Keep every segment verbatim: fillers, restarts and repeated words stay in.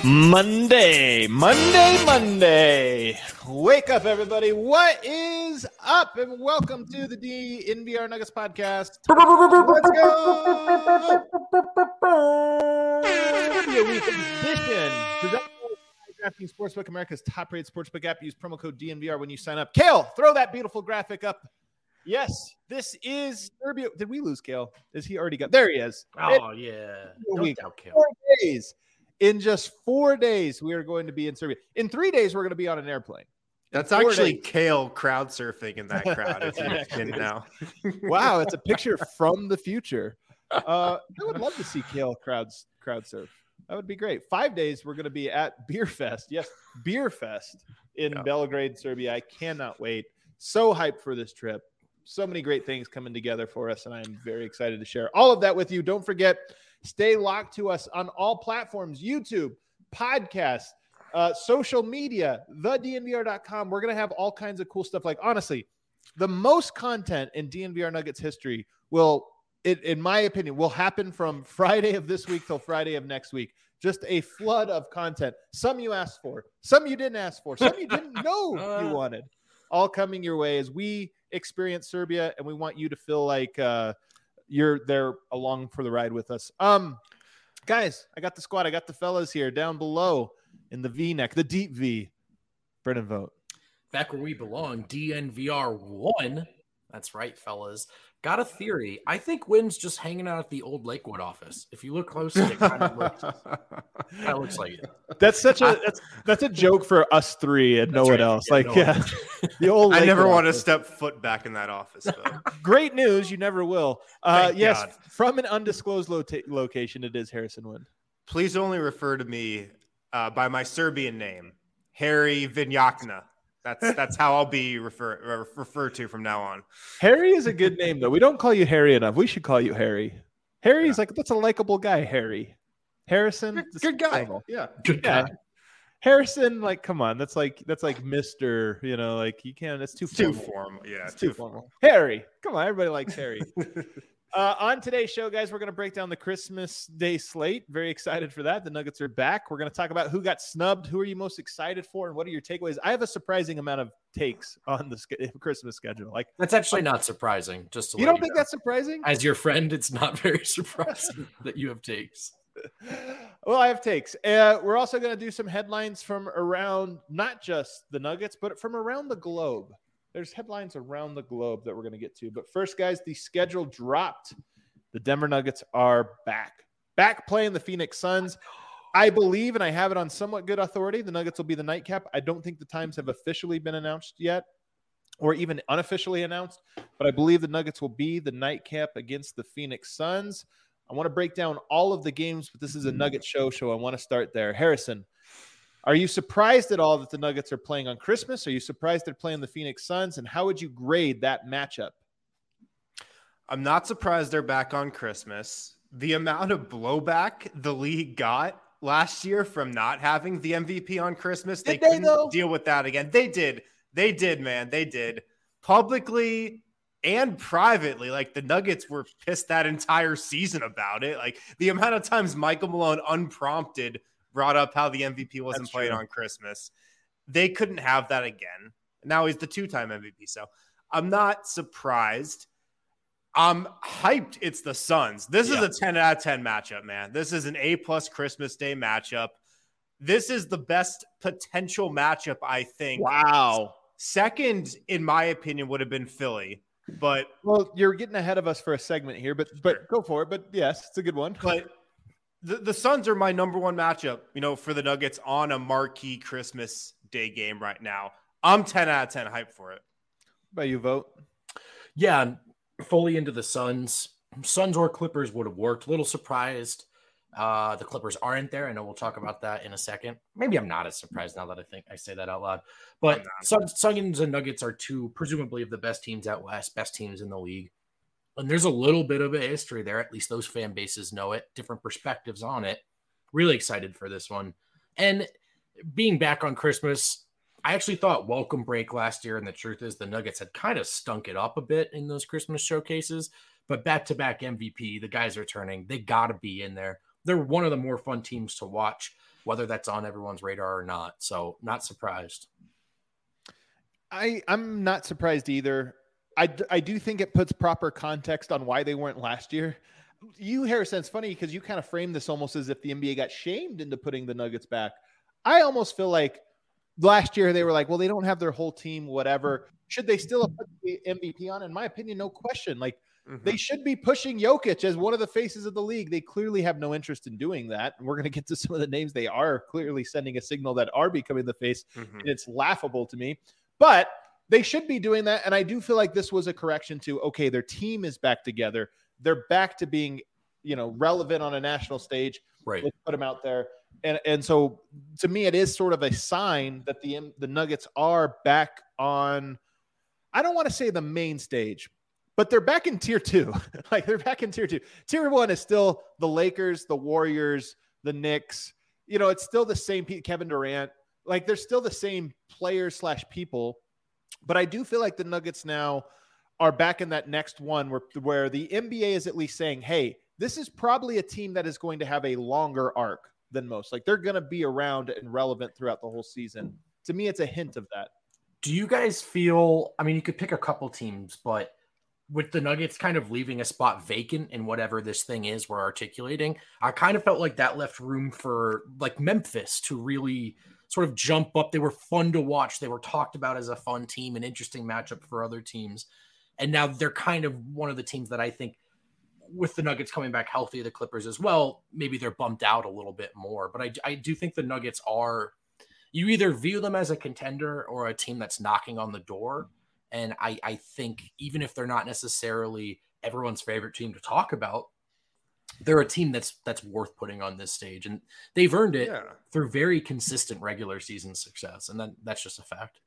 Monday, Monday, Monday. Wake up, everybody. What is up? And welcome to the D N V R Nuggets podcast. Let's go. Trivia Week edition. Presented by DraftKings Sportsbook, America's top-rated sportsbook app. Use promo code D N V R when you sign up. Kale, throw that beautiful graphic up. Yes, this is Serbia. Did we lose Kale? Is he already got? There he is. Oh, it, yeah. Don't doubt Kale. Four days. In just four days, we are going to be in Serbia. In three days, we're going to be on an airplane. That's actually days. Kale crowd surfing in that crowd, if you didn't know. Wow, it's a picture from the future. Uh, I would love to see Kale crowds crowd surf. That would be great. Five days, we're going to be at Beer Fest. Yes, Beer Fest in yeah. Belgrade, Serbia. I cannot wait. So hyped for this trip. So many great things coming together for us, and I'm very excited to share all of that with you. Don't forget, stay locked to us on all platforms, YouTube, podcast, uh, social media, the D N V R dot com. We're going to have all kinds of cool stuff. Like, honestly, the most content in D N V R Nuggets history will, it, in my opinion, will happen from Friday of this week till Friday of next week. Just a flood of content. Some you asked for, some you didn't ask for, some you didn't know you wanted. All coming your way as we experience Serbia, and we want you to feel like uh, you're there along for the ride with us. Um, guys, I got the squad. I got the fellas here down below in the V-neck, the deep V. Brennan Vogt. Back where we belong, D N V R one. That's right, fellas. Got a theory. I think Wynn's just hanging out at the old Lakewood office. If you look closely, it kind of looks, kind of looks like it. That's such a that's that's a joke for us three and that's no right. one else. Yeah, like, no yeah, the old. I never want office. to step foot back in that office. Though. Great news, you never will. Uh, yes, God. From an undisclosed lo- location, it is Harrison Wynn. Please only refer to me uh, by my Serbian name, Harry Vinjakna. That's that's how I'll be refer, referred to from now on. Harry is a good name, though. We don't call you Harry enough. We should call you Harry. Harry's yeah. like, that's a likable guy, Harry. Harrison, good, good guy. Level. Yeah, good yeah. guy. Harrison, like, come on. That's like that's like Mister, you know, like you can't. It's too formal. Too formal. Yeah, it's too, too formal. formal. Harry, come on. Everybody likes Harry. Uh, on today's show, guys, we're going to break down the Christmas Day slate. Very excited for that. The Nuggets are back. We're going to talk about who got snubbed, who are you most excited for, and what are your takeaways. I have a surprising amount of takes on the sk- Christmas schedule. Like that's actually not surprising. Just to you don't you think know. That's surprising? As your friend, it's not very surprising that you have takes. Well, I have takes. Uh, we're also going to do some headlines from around not just the Nuggets, but from around the globe. There's headlines around the globe that we're going to get to. But first, guys, the schedule dropped. The Denver Nuggets are back. Back playing the Phoenix Suns. I believe, and I have it on somewhat good authority, the Nuggets will be the nightcap. I don't think the times have officially been announced yet or even unofficially announced, but I believe the Nuggets will be the nightcap against the Phoenix Suns. I want to break down all of the games, but this is a Nugget show, so I want to start there. Harrison, are you surprised at all that the Nuggets are playing on Christmas? Are you surprised they're playing the Phoenix Suns? And how would you grade that matchup? I'm not surprised they're back on Christmas. The amount of blowback the league got last year from not having the M V P on Christmas, did they, they couldn't though? deal with that again. They did. They did, man. They did. Publicly and privately, like the Nuggets were pissed that entire season about it. Like the amount of times Michael Malone unprompted brought up how the M V P wasn't That's playing true. on Christmas. They couldn't have that again. Now he's the two-time M V P. So I'm not surprised. I'm hyped. It's the Suns. This yeah. is a ten out of ten matchup, man. This is an A plus Christmas Day matchup. This is the best potential matchup, I think. Wow. Second, in my opinion, would have been Philly. But well, you're getting ahead of us for a segment here, but but sure. Go for it. But yes, it's a good one. But the, the Suns are my number one matchup, you know, for the Nuggets on a marquee Christmas Day game right now. I'm ten out of ten hyped for it. How about you, Vote? Yeah, I'm fully into the Suns. Suns or Clippers would have worked. A little surprised uh, the Clippers aren't there. I know we'll talk about that in a second. Maybe I'm not as surprised now that I think I say that out loud. But Suns, Suns and Nuggets are two, presumably, of the best teams out west, best teams in the league. And there's a little bit of a history there. At least those fan bases know it. Different perspectives on it. Really excited for this one. And being back on Christmas, I actually thought welcome break last year. And the truth is the Nuggets had kind of stunk it up a bit in those Christmas showcases. But back-to-back M V P, the guys are turning. They got to be in there. They're one of the more fun teams to watch. whether that's on everyone's radar or not. So not surprised. I, I'm not surprised either. I, I do think it puts proper context on why they weren't last year. You, Harrison, it's funny because you kind of framed this almost as if the N B A got shamed into putting the Nuggets back. I almost feel like last year they were like, well, they don't have their whole team, whatever. Should they still have put the M V P on? In my opinion, no question. Like, mm-hmm. they should be pushing Jokic as one of the faces of the league. They clearly have no interest in doing that. And we're going to get to some of the names they are clearly sending a signal that are becoming the face. Mm-hmm. And it's laughable to me. But they should be doing that. And I do feel like this was a correction to, okay, their team is back together. They're back to being, you know, relevant on a national stage. Right. Let's put them out there. And and so to me, it is sort of a sign that the the Nuggets are back on, I don't want to say the main stage, but they're back in tier two. Like they're back in tier two. Tier one is still the Lakers, the Warriors, the Knicks. You know, it's still the same Kevin Durant. Like they're still the same players slash people. But I do feel like the Nuggets now are back in that next one where, where the N B A is at least saying, hey, this is probably a team that is going to have a longer arc than most. Like they're going to be around and relevant throughout the whole season. To me, it's a hint of that. Do you guys feel, I mean, you could pick a couple teams, but with the Nuggets kind of leaving a spot vacant in whatever this thing is we're articulating, I kind of felt like that left room for like Memphis to really sort of jump up. They were fun to watch. They were talked about as a fun team, an interesting matchup for other teams. And now they're kind of one of the teams that I think with the Nuggets coming back healthy, the Clippers as well, maybe they're bumped out a little bit more. But I, I do think the Nuggets are, you either view them as a contender or a team that's knocking on the door. And I, I think even if they're not necessarily everyone's favorite team to talk about, they're a team that's that's worth putting on this stage. And they've earned it yeah. through very consistent regular season success. And then that's just a fact.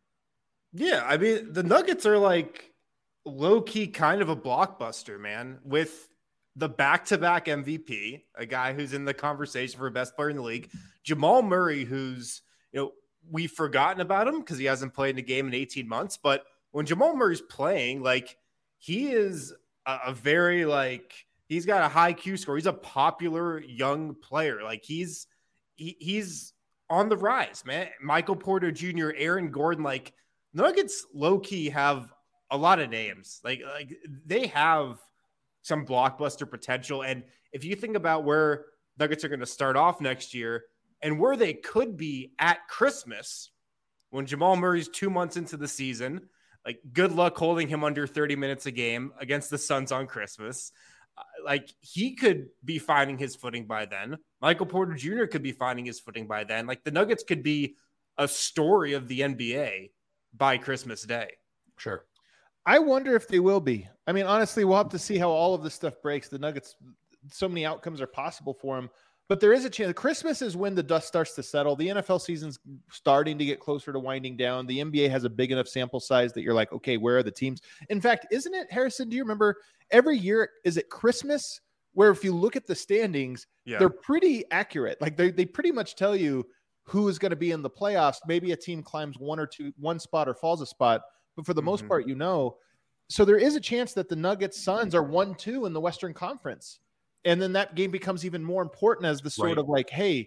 Yeah, I mean, the Nuggets are like low-key kind of a blockbuster, man, with the back-to-back M V P, a guy who's in the conversation for best player in the league, Jamal Murray, who's, you know, we've forgotten about him because he hasn't played in a game in eighteen months. But when Jamal Murray's playing, like, he is a, a very, like, he's got a high Q score. He's a popular young player. Like, he's he, he's on the rise, man. Michael Porter Junior, Aaron Gordon, like, Nuggets low-key have a lot of names. Like, like they have some blockbuster potential. And if you think about where Nuggets are going to start off next year and where they could be at Christmas when Jamal Murray's two months into the season, like good luck holding him under thirty minutes a game against the Suns on Christmas. Uh, like he could be finding his footing by then. Michael Porter Junior could be finding his footing by then. Like the Nuggets could be a story of the N B A by Christmas Day. Sure. I wonder if they will be. I mean, honestly, we'll have to see how all of this stuff breaks. The Nuggets, so many outcomes are possible for them, but there is a chance. Christmas is when the dust starts to settle. The N F L season's starting to get closer to winding down. The N B A has a big enough sample size that you're like, okay, where are the teams? In fact, isn't it, Harrison, do you remember every year, is it Christmas where if you look at the standings, yeah. they're pretty accurate. Like they, they pretty much tell you who is going to be in the playoffs. Maybe a team climbs one or two, one spot or falls a spot. But for the mm-hmm. most part, you know, so there is a chance that the Nuggets Suns are one, two in the Western Conference. And then that game becomes even more important as the sort right. of like, hey,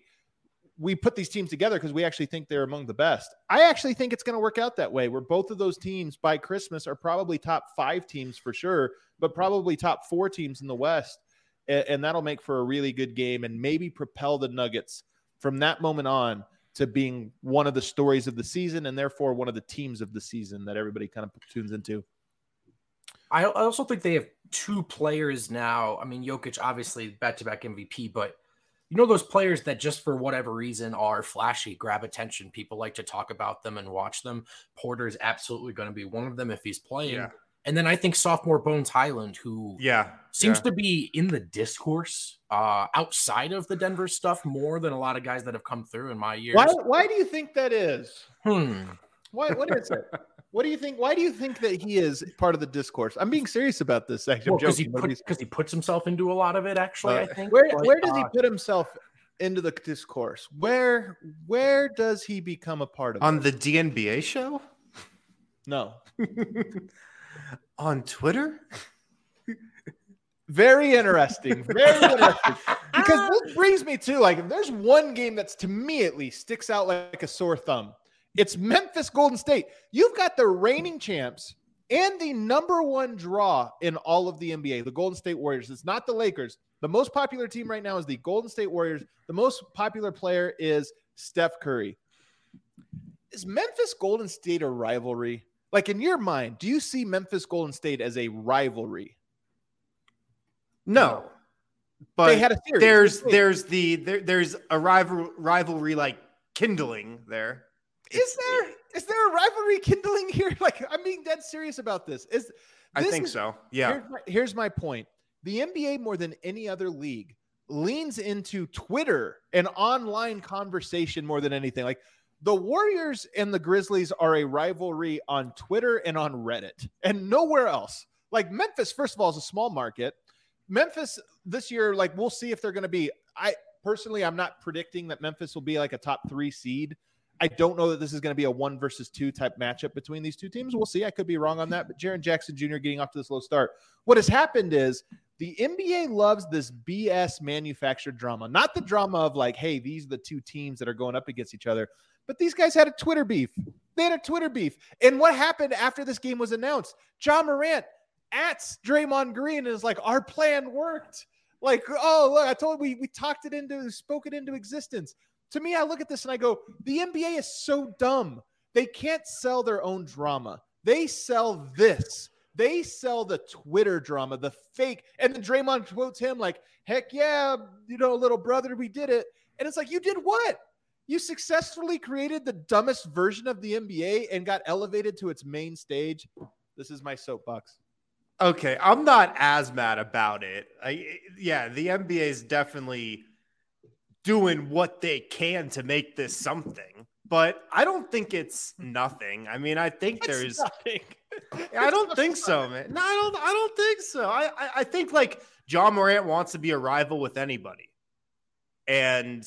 we put these teams together because we actually think they're among the best. I actually think it's going to work out that way where both of those teams by Christmas are probably top five teams for sure, but probably top four teams in the West. And, and that'll make for a really good game and maybe propel the Nuggets from that moment on to being one of the stories of the season and therefore one of the teams of the season that everybody kind of tunes into. I also think they have two players now. I mean, Jokic, obviously back-to-back M V P, but you know, those players that just for whatever reason are flashy, grab attention. People like to talk about them and watch them. Porter is absolutely going to be one of them if he's playing. Yeah. And then I think sophomore Bones Highland, who yeah, seems yeah. to be in the discourse uh, outside of the Denver stuff more than a lot of guys that have come through in my years. Why, why do you think that is? Hmm. Why, what is it? What do you think? Why do you think that he is part of the discourse? I'm being serious about this. Actually, because well, he, put, he puts himself into a lot of it. Actually, uh, I think. Where but, where does uh, he put himself into the discourse? Where where does he become a part of on it? the D N B A show? No. On Twitter? Very interesting. Very interesting. Because this brings me to, like, if there's one game that's, to me at least, sticks out like a sore thumb, it's Memphis Golden State. You've got the reigning champs and the number one draw in all of the N B A, the Golden State Warriors. It's not the Lakers. The most popular team right now is the Golden State Warriors. The most popular player is Steph Curry. Is Memphis Golden State a rivalry? Like, in your mind, do you see Memphis Golden State as a rivalry? No. But they had a series. There's there's the there, there's a rival rivalry like kindling there. Is there is there a rivalry kindling here? Like, I'm being dead serious about this. Is this I think is, so. Yeah. Here's my, here's my point. The N B A, more than any other league, leans into Twitter and online conversation more than anything. Like, the Warriors and the Grizzlies are a rivalry on Twitter and on Reddit and nowhere else. Like, Memphis, first of all, is a small market. Memphis this year, like, we'll see if they're going to be, I personally, I'm not predicting that Memphis will be like a top three seed. I don't know that this is going to be a one versus two type matchup between these two teams. We'll see. I could be wrong on that, but Jaren Jackson Junior getting off to this low start. What has happened is the N B A loves this B S manufactured drama, not the drama of like, hey, these are the two teams that are going up against each other, but these guys had a Twitter beef. They had a Twitter beef. And what happened after this game was announced? Ja Morant at Draymond Green and is like, our plan worked. Like, oh, look, I told you, we, we talked it into, spoke it into existence. To me, I look at this and I go, the N B A is so dumb. They can't sell their own drama. They sell this. They sell the Twitter drama, the fake. And then Draymond quotes him like, heck yeah, you know, little brother, we did it. And it's like, you did what? You successfully created the dumbest version of the N B A and got elevated to its main stage. This is my soapbox. Okay, I'm not as mad about it. I, yeah, the N B A is definitely doing what they can to make this something, but I don't think it's nothing. I mean, I think It's there's nothing. I don't think so, man. No, I don't I don't think so. I, I I think like Ja Morant wants to be a rival with anybody. And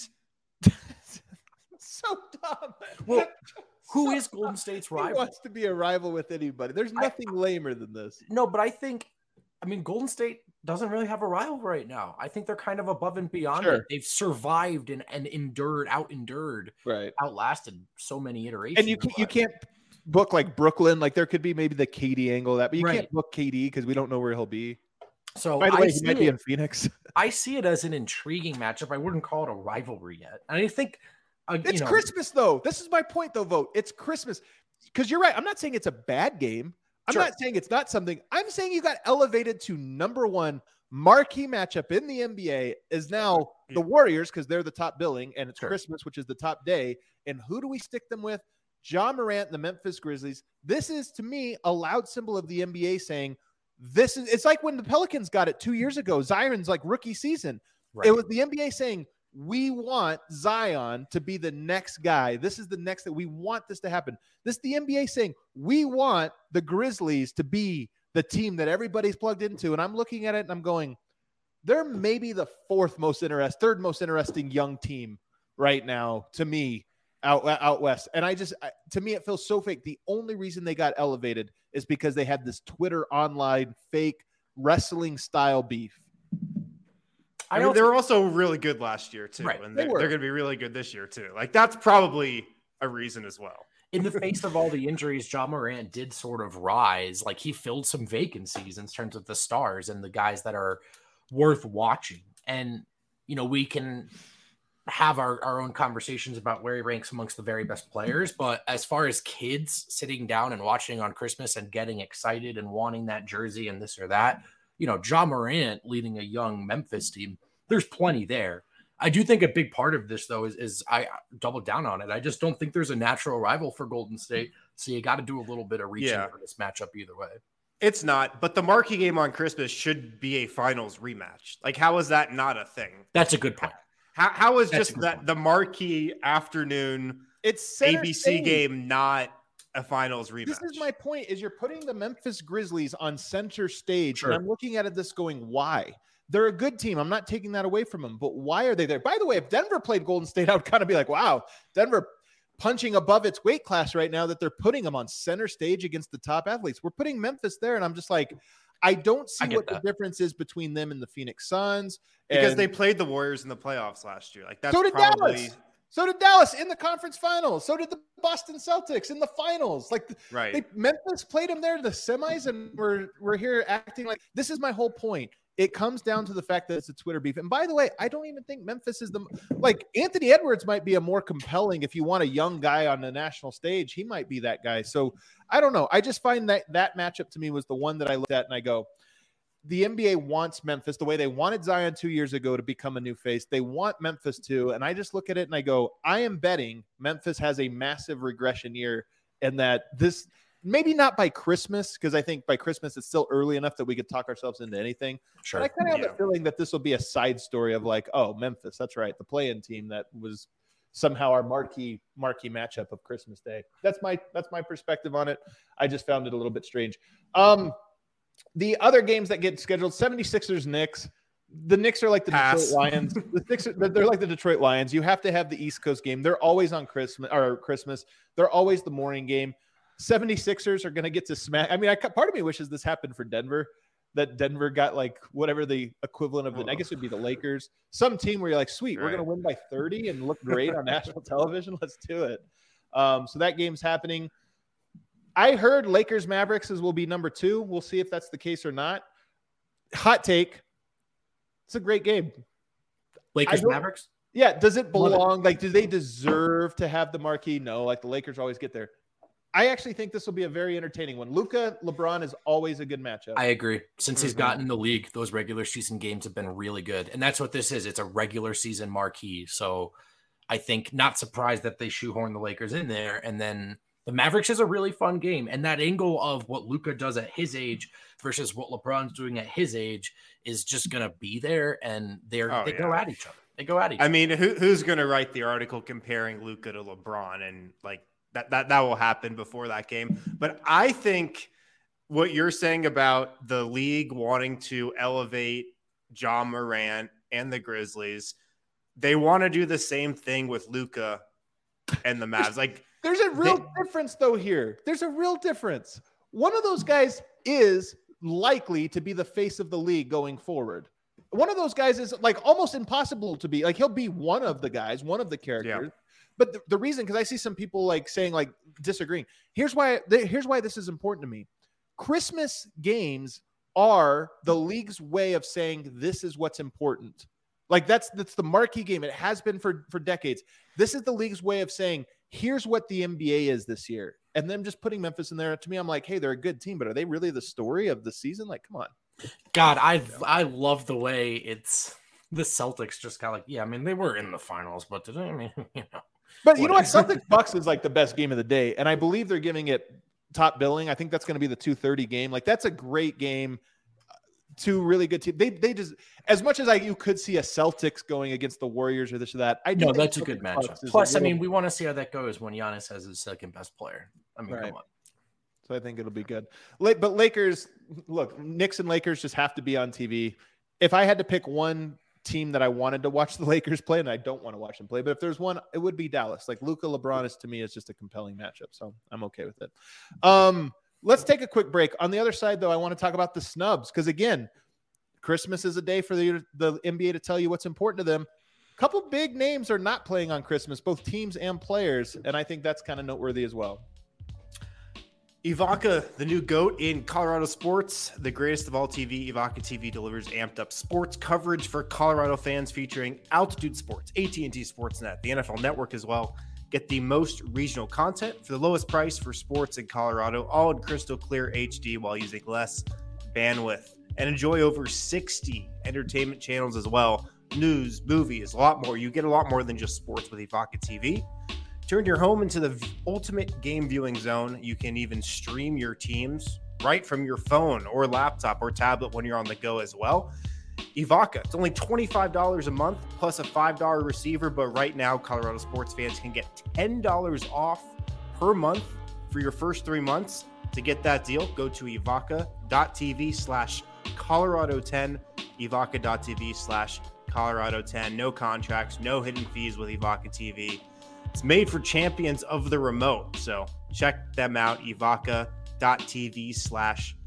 So dumb. Well, who So is Golden State's He rival? wants to be a rival with anybody. There's nothing lamer than this. No, but I think, I mean, Golden State doesn't really have a rival right now. I think they're kind of above and beyond Sure. it. They've survived and, and endured, out endured, Right. outlasted so many iterations. And you can't, you can't book like Brooklyn. Like, there could be maybe the K D angle of that, but you Right. can't book K D because we don't know where he'll be. So By the I way, he see might be it- in Phoenix. I see it as an intriguing matchup. I wouldn't call it a rivalry yet. And I think uh, It's you know, Christmas, though. This is my point, though, Vote. It's Christmas. Because you're right. I'm not saying it's a bad game. I'm Sure. not saying it's not something. I'm saying you got elevated to number one marquee matchup in the N B A is now the Warriors because they're the top billing, and it's Sure. Christmas, which is the top day. And who do we stick them with? Ja Morant and the Memphis Grizzlies. This is, to me, a loud symbol of the N B A saying, this is, it's like when the Pelicans got it two years ago, Zion's like rookie season. right. It was the N B A saying, we want Zion to be the next guy. This is the next that we want this to happen. This is the N B A saying, we want the Grizzlies to be the team that everybody's plugged into. And I'm looking at it and I'm going, they're maybe the fourth most interesting, third most interesting young team right now to me out, out west. And I just, I, to me, it feels so fake. The only reason they got elevated is because they had this Twitter online fake wrestling style beef. I, I mean, don't they were also really good last year too, Right. and They they're, were. they're going to be really good this year too. Like that's probably a reason as well. in the face of all the injuries, Ja Morant did sort of rise. Like he filled some vacancies in terms of the stars and the guys that are worth watching. And, you know, we can have our, our own conversations about where he ranks amongst the very best players. But as far as kids sitting down and watching on Christmas and getting excited and wanting that jersey and this or that, you know, Ja Morant leading a young Memphis team, there's plenty there. I do think a big part of this, though, is, is I double down on it. I just don't think there's a natural rival for Golden State. So you got to do a little bit of reaching Yeah. for this matchup either way. It's not, but the marquee game on Christmas should be a finals rematch. Like, how is that not a thing? That's a good point. How, how is That's a just good that point. the marquee afternoon It's A center B C stage. game not a finals rematch? This is my point: is you're putting the Memphis Grizzlies on center stage, Sure. and I'm looking at it this going, why? They're a good team. I'm not taking that away from them, but why are they there? By the way, if Denver played Golden State, I would kind of be like, wow, Denver punching above its weight class right now that they're putting them on center stage against the top athletes. We're putting Memphis there, and I'm just like, I don't see I what that. the difference is between them and the Phoenix Suns. Because and they played the Warriors in the playoffs last year. Like that's so did probably Dallas. So did Dallas in the conference finals. So did the Boston Celtics in the finals. Like right. they, Memphis played them there to the semis, and we're we're here acting like this is my whole point. It comes down to the fact that it's a Twitter beef. And by the way, I don't even think Memphis is the like Anthony Edwards might be a more compelling if you want a young guy on the national stage. He might be that guy. So I don't know. I just find that that matchup to me was the one that I looked at and I go, the N B A wants Memphis the way they wanted Zion two years ago to become a new face. They want Memphis too. And I just look at it and I go, I am betting Memphis has a massive regression year and that this maybe not by Christmas, because I think by Christmas it's still early enough that we could talk ourselves into anything. Sure. But I kind of have Yeah. a feeling that this will be a side story of like, oh, Memphis, that's right, the play-in team that was somehow our marquee marquee matchup of Christmas Day. That's my that's my perspective on it. I just found it a little bit strange. Um, the other games that get scheduled, seventy-sixers Knicks. The Knicks are like the Pass. Detroit Lions. The Knicks are, they're like the Detroit Lions. You have to have the East Coast game. They're always on Christmas or Christmas. They're always the morning game. seventy-sixers are going to get to smack. I mean, I part of me wishes this happened for Denver, that Denver got like whatever the equivalent of the, I guess it would be the Lakers, some team where you're like, sweet, we're Right. going to win by thirty and look great on national television. Let's do it. Um, so that game's happening. I heard Lakers Mavericks will be number two. We'll see if that's the case or not. Hot take. It's a great game. Lakers I don't- Mavericks. Yeah. Does it Love it. belong? Like, do they deserve to have the marquee? No, like the Lakers always get there. I actually think this will be a very entertaining one. Luka, LeBron is always a good matchup. I agree. Since he's Mhm. gotten in the league, those regular season games have been really good. And that's what this is. It's a regular season marquee. So I think not surprised that they shoehorn the Lakers in there. And then the Mavericks is a really fun game. And that angle of what Luka does at his age versus what LeBron's doing at his age is just going to be there. And they're, Oh, they yeah. go at each other. They go at each I other. mean, who, who's going to write the article comparing Luka to LeBron? And like that, that, that will happen before that game. But I think what you're saying about the league wanting to elevate Ja Morant and the Grizzlies, they want to do the same thing with Luka and the Mavs. Like, There's a real They- difference, though, here. There's a real difference. One of those guys is likely to be the face of the league going forward. One of those guys is like almost impossible to be. Like, he'll be one of the guys, one of the characters. But the, the reason, because I see some people like saying, like, disagreeing. Here's why, here's why this is important to me. Christmas games are the league's way of saying this is what's important. Like, that's that's the marquee game. It has been for, for decades. This is the league's way of saying, here's what the N B A is this year. And then just putting Memphis in there, to me, I'm like, hey, they're a good team, but are they really the story of the season? Like, come on. God, I I love the way it's the Celtics just kind of like, yeah, I mean, they were in the finals, but did I mean, you know. But you know what? Celtics Bucks is like the best game of the day. And I believe they're giving it top billing. I think that's going to be the two thirty game. Like, that's a great game. Two really good teams. They they just, as much as I you could see a Celtics going against the Warriors or this or that. I do No, think that's a good Celtics matchup. Bucks is a Plus, I little- mean, we want to see how that goes when Giannis has his second best player. I mean, Right. come on. So I think it'll be good. La- But Lakers, look, Knicks and Lakers just have to be on T V. If I had to pick one team that I wanted to watch the Lakers play, and I don't want to watch them play, but if there's one, it would be Dallas. Like Luka LeBron is to me is just a compelling matchup, so I'm okay with it. Um, let's take a quick break. On the other side, though, I want to talk about the snubs because again, Christmas is a day for the the N B A to tell you what's important to them. A couple big names are not playing on Christmas, both teams and players, and I think that's kind of noteworthy as well. Ivanka, the new GOAT in Colorado sports, the greatest of all T V, Ivanka T V delivers amped up sports coverage for Colorado fans featuring Altitude Sports, A T and T Sportsnet, the N F L Network as well. Get the most regional content for the lowest price for sports in Colorado, all in crystal clear H D while using less bandwidth. And enjoy over sixty entertainment channels as well. News, movies, a lot more. You get a lot more than just sports with Ivanka T V. Turn your home into the ultimate game viewing zone. You can even stream your teams right from your phone or laptop or tablet when you're on the go as well. Ivanka, it's only twenty-five dollars a month plus a five dollars receiver, but right now Colorado sports fans can get ten dollars off per month for your first three months. To get that deal, go to ivanka.tv slash Colorado 10, ivanka.tv slash Colorado 10. No contracts, no hidden fees with Ivanka T V. It's made for champions of the remote. So check them out, ivanka.tv slash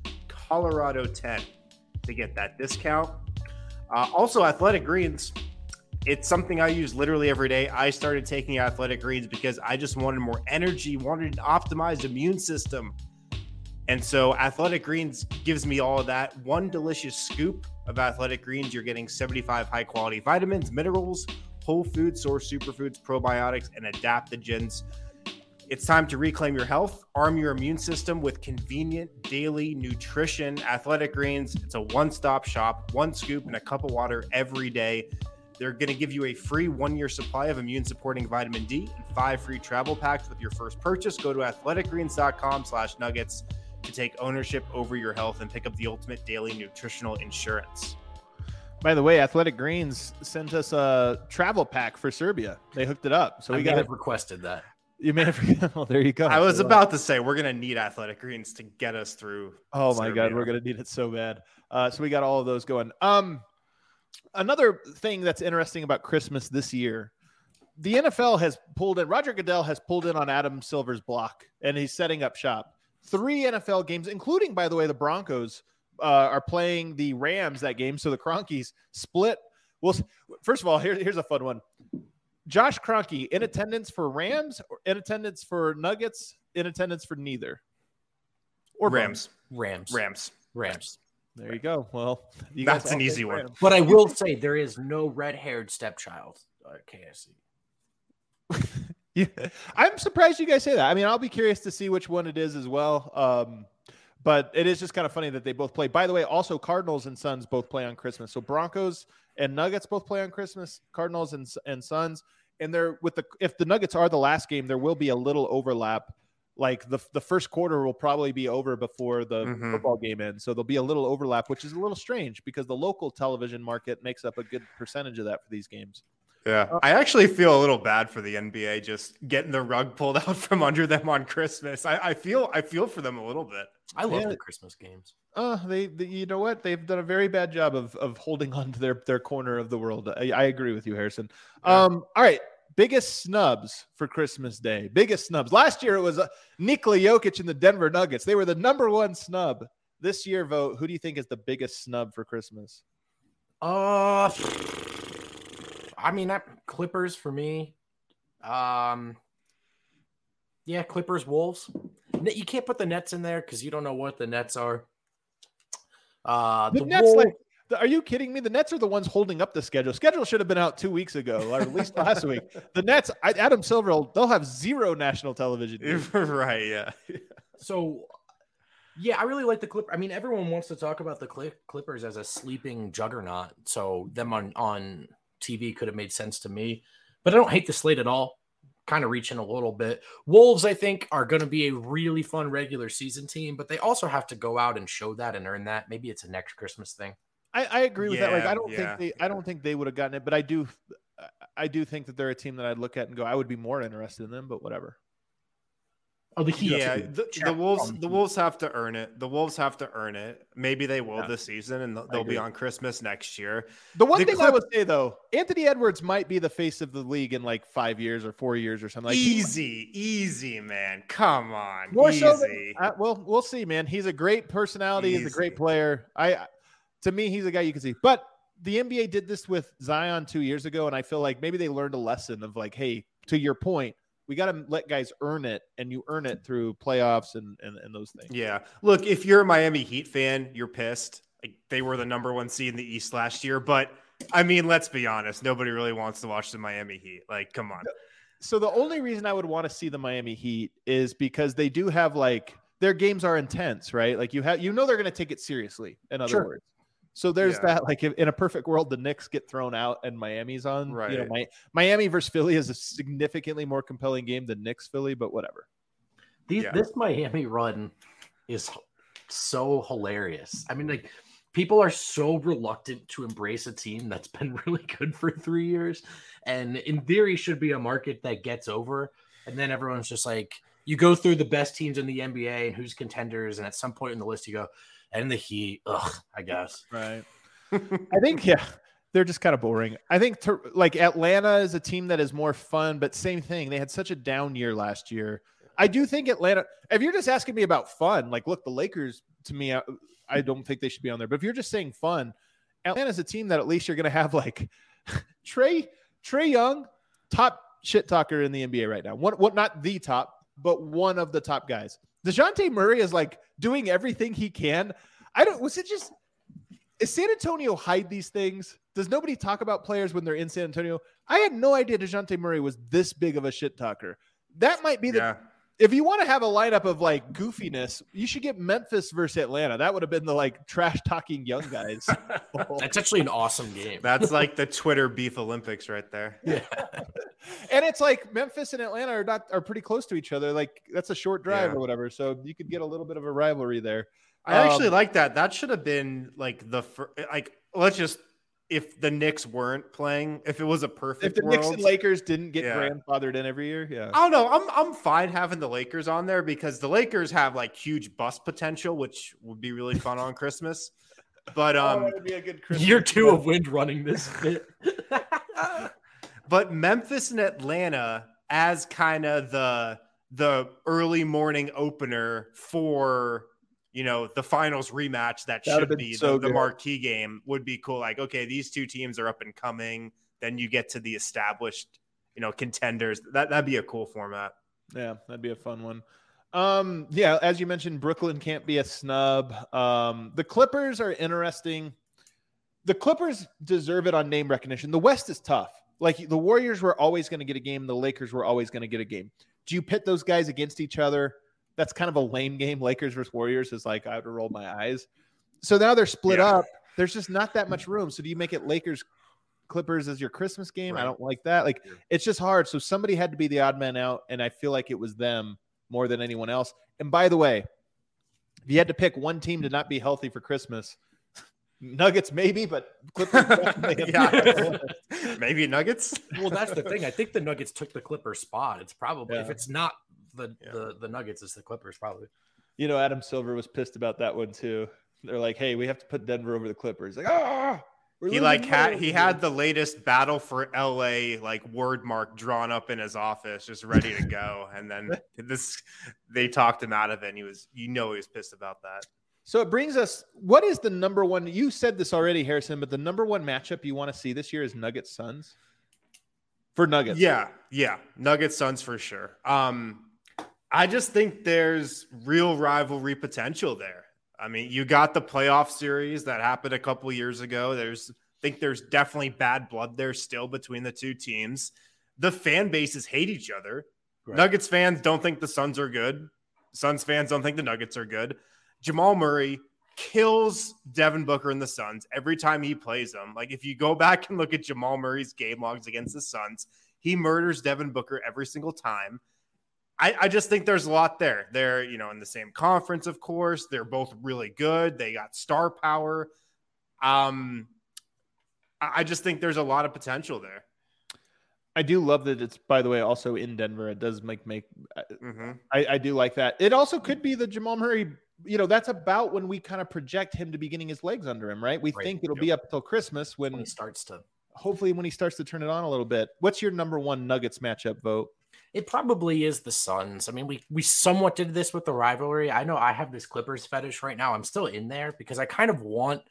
Colorado ten to get that discount. Uh, also, Athletic Greens. It's something I use literally every day. I started taking Athletic Greens because I just wanted more energy, wanted an optimized immune system. And so Athletic Greens gives me all of that. One delicious scoop of Athletic Greens, you're getting seventy-five high-quality vitamins, minerals, whole food source superfoods, probiotics, and adaptogens. It's time to reclaim your health, arm your immune system with convenient daily nutrition. Athletic Greens, it's a one-stop shop, one scoop and a cup of water every day. They're going to give you a free one-year supply of immune-supporting vitamin D and five free travel packs with your first purchase. Go to athleticgreens.com slash nuggets to take ownership over your health and pick up the ultimate daily nutritional insurance. By the way, Athletic Greens sent us a travel pack for Serbia. They hooked it up. So I we got have requested that. You may have. Well, there you go. I was about to say, we're going to need Athletic Greens to get us through. Oh my Serbia. God. We're going to need it so bad. Uh, so we got all of those going. Um, Another thing that's interesting about Christmas this year, the N F L has pulled in, Roger Goodell has pulled in on Adam Silver's block, and he's setting up shop. Three N F L games, including, by the way, the Broncos uh, are playing the Rams that game. So the Cronkies split. Well, first of all, here, here's a fun one. Josh Kroenke in attendance for Rams, or in attendance for Nuggets, in attendance for neither. Or Rams. Rams. Rams. Rams. There you go. Well, you that's guys an easy one. Rams. But I will say there is no red-haired stepchild at K S C. Yeah, I'm surprised you guys say that. I mean, I'll be curious to see which one it is as well. Um, but it is just kind of funny that they both play. By the way, also Cardinals and Suns both play on Christmas. So Broncos and Nuggets both play on Christmas. Cardinals and and Suns. And they're with the if the Nuggets are the last game, there will be a little overlap. Like the the first quarter will probably be over before the mm-hmm. football game ends. So there'll be a little overlap, which is a little strange because the local television market makes up a good percentage of that for these games. Yeah, I actually feel a little bad for the N B A just getting the rug pulled out from under them on Christmas. I, I feel I feel for them a little bit. I love yeah. the Christmas games. Uh, they, they, you know what? They've done a very bad job of of holding on to their their corner of the world. I, I agree with you, Harrison. Yeah. Um, all right. Biggest snubs for Christmas Day. Biggest snubs. Last year it was uh, Nikola Jokic and the Denver Nuggets. They were the number one snub. This year, vote. Who do you think is the biggest snub for Christmas? Uh, I mean, that Clippers for me. Um, yeah, Clippers, Wolves. You can't put the Nets in there because you don't know what the Nets are. Uh, the, the Nets, Wolves, like, are you kidding me? The Nets are the ones holding up the schedule. Schedule should have been out two weeks ago, or at least last week. The Nets, I, Adam Silver, they'll have zero national television. Right, yeah. So, yeah, I really like the Clippers. I mean, everyone wants to talk about the Clippers as a sleeping juggernaut. So them on, on T V could have made sense to me. But I don't hate the slate at all. Kind of reaching a little bit. Wolves, I think, are going to be a really fun regular season team, but they also have to go out and show that and earn that. Maybe it's a next Christmas thing. I, I agree with yeah, that. Like, I don't yeah. think they, I don't think they would have gotten it, but I do, I do think that they're a team that I'd look at and go, I would be more interested in them, but whatever. Oh, the Heat. Yeah, the, the Wolves, the Wolves have to earn it. The Wolves have to earn it. Maybe they will yeah. this season, and they'll be on Christmas next year. The one the thing Clip- I would say though, Anthony Edwards might be the face of the league in like five years or four years or something. Like easy, easy, man. Come on, more easy. so than, uh, well, we'll see, man. He's a great personality. Easy. He's a great player. I, to me, he's a guy you can see. But the N B A did this with Zion two years ago, and I feel like maybe they learned a lesson of like, hey, to your point, we got to let guys earn it, and you earn it through playoffs and, and, and those things. Yeah. Look, if you're a Miami Heat fan, you're pissed. Like, they were the number one seed in the East last year. But, I mean, let's be honest. Nobody really wants to watch the Miami Heat. Like, come on. So the only reason I would want to see the Miami Heat is because they do have, like, their games are intense, right? Like, you have, you know they're going to take it seriously, in other sure. words. So there's yeah. that, like if, in a perfect world, the Knicks get thrown out and Miami's on. Right. You know, my, Miami versus Philly is a significantly more compelling game than Knicks Philly, but whatever. These, yeah. This Miami run is so hilarious. I mean, like people are so reluctant to embrace a team that's been really good for three years, and in theory should be a market that gets over. And then everyone's just like, you go through the best teams in the N B A and who's contenders, and at some point in the list you go. And the Heat, ugh, I guess. Right. I think, yeah, they're just kind of boring. I think, to, like, Atlanta is a team that is more fun, but same thing. They had such a down year last year. I do think Atlanta, if you're just asking me about fun, like, look, the Lakers to me, I, I don't think they should be on there. But if you're just saying fun, Atlanta's a team that at least you're going to have like Trey Trey Young, top shit talker in the N B A right now. What what not the top, but one of the top guys. DeJounte Murray is like doing everything he can. I don't. Was it just? Is San Antonio hide these things? Does nobody talk about players when they're in San Antonio? I had no idea DeJounte Murray was this big of a shit talker. That might be the. Yeah. If you want to have a lineup of like goofiness, you should get Memphis versus Atlanta. That would have been the like trash talking young guys. That's actually an awesome game. That's like the Twitter beef Olympics right there. Yeah. And it's like Memphis and Atlanta are not are pretty close to each other. Like that's a short drive Yeah. or whatever. So you could get a little bit of a rivalry there. I actually Um, like that. That should have been like the fir- like. Let's just if the Knicks weren't playing, if it was a perfect If the world, Knicks and Lakers didn't get Yeah. grandfathered in every year, yeah. I don't know. I'm I'm fine having the Lakers on there because the Lakers have like huge bust potential, which would be really fun on Christmas. But Oh, um, that would be a good Christmas Year two present. of Wind running this bit. but Memphis and Atlanta as kind of the the early morning opener for you know the finals rematch that That would've should been be so the, the good. marquee game would be cool. Like, okay, these two teams are up and coming. Then you get to the established, you know, contenders. That that'd be a cool format. Yeah, that'd be a fun one. Um, yeah, as you mentioned, Brooklyn can't be a snub. Um, the Clippers are interesting. The Clippers deserve it on name recognition. The West is tough. Like the Warriors were always going to get a game. The Lakers were always going to get a game. Do you pit those guys against each other? That's kind of a lame game. Lakers versus Warriors is like, I would have rolled my eyes. So now they're split Yeah. up. There's just not that much room. So do you make it Lakers Clippers as your Christmas game? I Right. don't like that. Like Yeah. it's just hard. So somebody had to be the odd man out. And I feel like it was them more than anyone else. And by the way, if you had to pick one team to not be healthy for Christmas, Nuggets maybe, but Clippers definitely. Yeah. Maybe Nuggets. Well, that's the thing. I think the Nuggets took the Clippers spot. It's probably if Yeah. it's not the, Yeah. the the Nuggets, it's the Clippers probably. You know, Adam Silver was pissed about that one too. They're like, "Hey, we have to put Denver over the Clippers." Like, ah, we're He losing like had more." he had the latest battle for L A like word mark drawn up in his office, just ready to go. And then this they talked him out of it. And he was, you know, he was pissed about that. So it brings us. What is the number one? You said this already, Harrison, but the number one matchup you want to see this year is Nuggets Suns. For Nuggets, Yeah, yeah, Nuggets Suns for sure. Um, I just think there's real rivalry potential there. I mean, you got the playoff series that happened a couple years ago. There's, I think there's definitely bad blood there still between the two teams. The fan bases hate each other. Right. Nuggets fans don't think the Suns are good. Suns fans don't think the Nuggets are good. Jamal Murray kills Devin Booker and the Suns every time he plays them. Like if you go back and look at Jamal Murray's game logs against the Suns, he murders Devin Booker every single time. I, I just think there's a lot there. They're, you know, in the same conference, of course. They're both really good. They got star power. Um, I, I just think there's a lot of potential there. I do love that it's, by the way, also in Denver. It does make make. Mm-hmm. I, I do like that. It also could be the Jamal Murray. You know, that's about when we kind of project him to be getting his legs under him, right? We Right. think it'll Yep. be up till Christmas when, When he starts to, hopefully, when he starts to turn it on a little bit. What's your number one Nuggets matchup vote? it probably is the Suns. I mean, we we somewhat did this with the rivalry. I know I have this Clippers fetish right now. I'm still in there because I kind of want,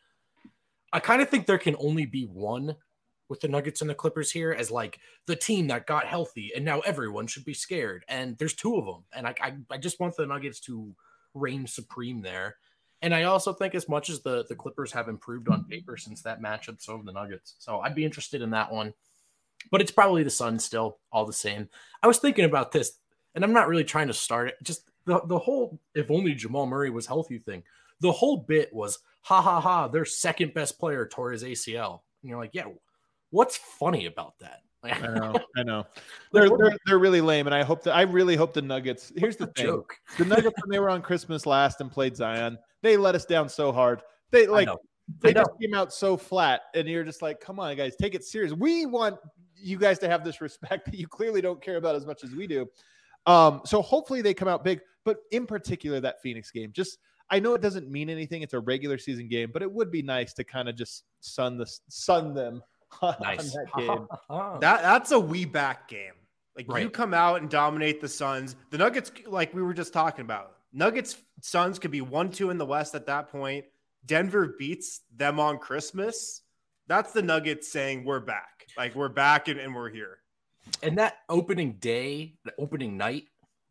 I kind of think there can only be one with the Nuggets and the Clippers here as like the team that got healthy and now everyone should be scared. And there's two of them. And I, I, I just want the Nuggets to reign supreme there. And I also think as much as the, the Clippers have improved on paper since that matchup, so have the Nuggets. So I'd be interested in that one. But it's probably the Suns still, all the same. I was thinking about this, and I'm not really trying to start it. Just the, the whole if only Jamal Murray was healthy thing. The whole bit was, ha, ha, ha, their second best player tore his A C L. And you're like, yeah, what's funny about that? Like, I know, I know. They're, they're they're really lame, and I hope that I really hope the Nuggets. Here's the thing: joke. the Nuggets when they were on Christmas last and played Zion, they let us down so hard. They I like know. they I know. just came out so flat, and you're just like, come on, guys, take it serious. We want you guys to have this respect that you clearly don't care about as much as we do. Um, so hopefully they come out big, but in particular that Phoenix game. Just I know it doesn't mean anything; it's a regular season game, but it would be nice to kind of just sun the sun them. Nice. on that game. That that's a we back game. Like Right. you come out and dominate the Suns. The Nuggets, like we were just talking about, Nuggets Suns could be one two in the West at that point. Denver beats them on Christmas. That's the Nuggets saying we're back. Like we're back and, and we're here. And that opening day, the opening night,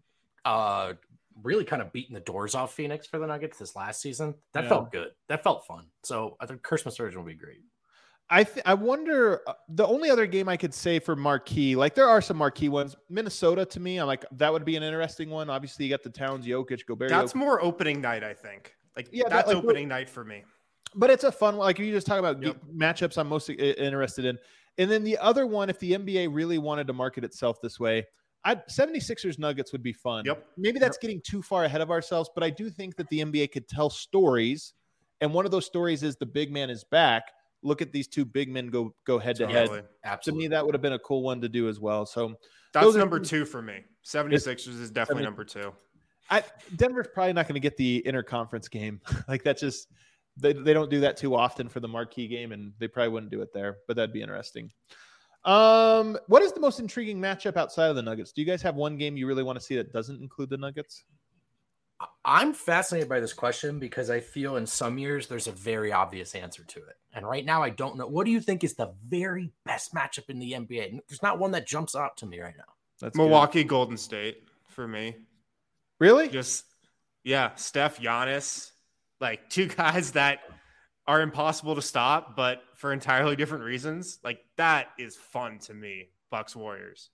uh, really kind of beating the doors off Phoenix for the Nuggets this last season. That Yeah. felt good. That felt fun. So I think Christmas version will be great. I th- I wonder uh, the only other game I could say for marquee, like there are some marquee ones. Minnesota to me, I'm like that would be an interesting one. Obviously, you got the Towns, Jokic, Gobert. That's Jokic. more opening night, I think. Like Yeah, that- that's like, opening night for me. But it's a fun one. Like you just talk about Yep. ge- matchups I'm most i- interested in. And then the other one, if the N B A really wanted to market itself this way, I'd seventy-sixers Nuggets would be fun. Yep. Maybe that's getting too far ahead of ourselves, but I do think that the N B A could tell stories. And one of those stories is the big man is back. Look at these two big men go go head to head. Totally. To Absolutely. me, that would have been a cool one to do as well. So That's those are- number two for me. seventy-sixers is definitely seventy number two. I, Denver's probably not going to get the interconference game. Like that's just they, they don't do that too often for the marquee game, and they probably wouldn't do it there. But that'd be interesting. Um, what is the most intriguing matchup outside of the Nuggets? Do you guys have one game you really want to see that doesn't include the Nuggets? I'm fascinated by this question because I feel in some years there's a very obvious answer to it. And right now I don't know. What do you think is the very best matchup in the N B A? There's not one that jumps out to me right now. That's good. Milwaukee, Golden State for me. Really? Just yeah, Steph, Giannis, like two guys that are impossible to stop, but for entirely different reasons. Like that is fun to me. Bucks Warriors.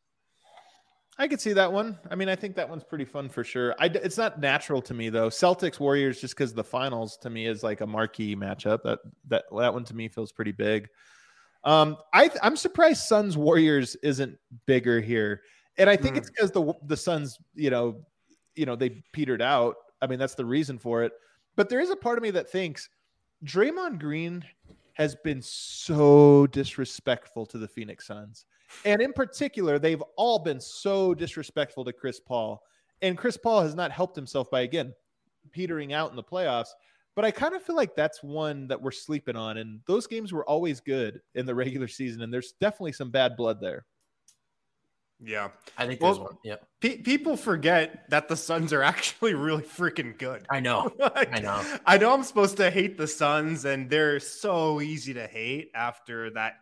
I could see that one. I mean, I think that one's pretty fun for sure. I, it's not natural to me though. Celtics Warriors, just because the finals to me is like a marquee matchup. That that that one to me feels pretty big. Um, I I'm surprised Suns Warriors isn't bigger here, and I think Mm. it's because the the Suns, you know, you know, they petered out. I mean, that's the reason for it. But there is a part of me that thinks Draymond Green has been so disrespectful to the Phoenix Suns. And in particular, they've all been so disrespectful to Chris Paul. And Chris Paul has not helped himself by, again, petering out in the playoffs. But I kind of feel like that's one that we're sleeping on. And those games were always good in the regular season. And there's definitely some bad blood there. Yeah. I think Well, there's one. Yep. Pe- people forget that the Suns are actually really freaking good. I know. Like, I know. I know I'm supposed to hate the Suns, and they're so easy to hate after that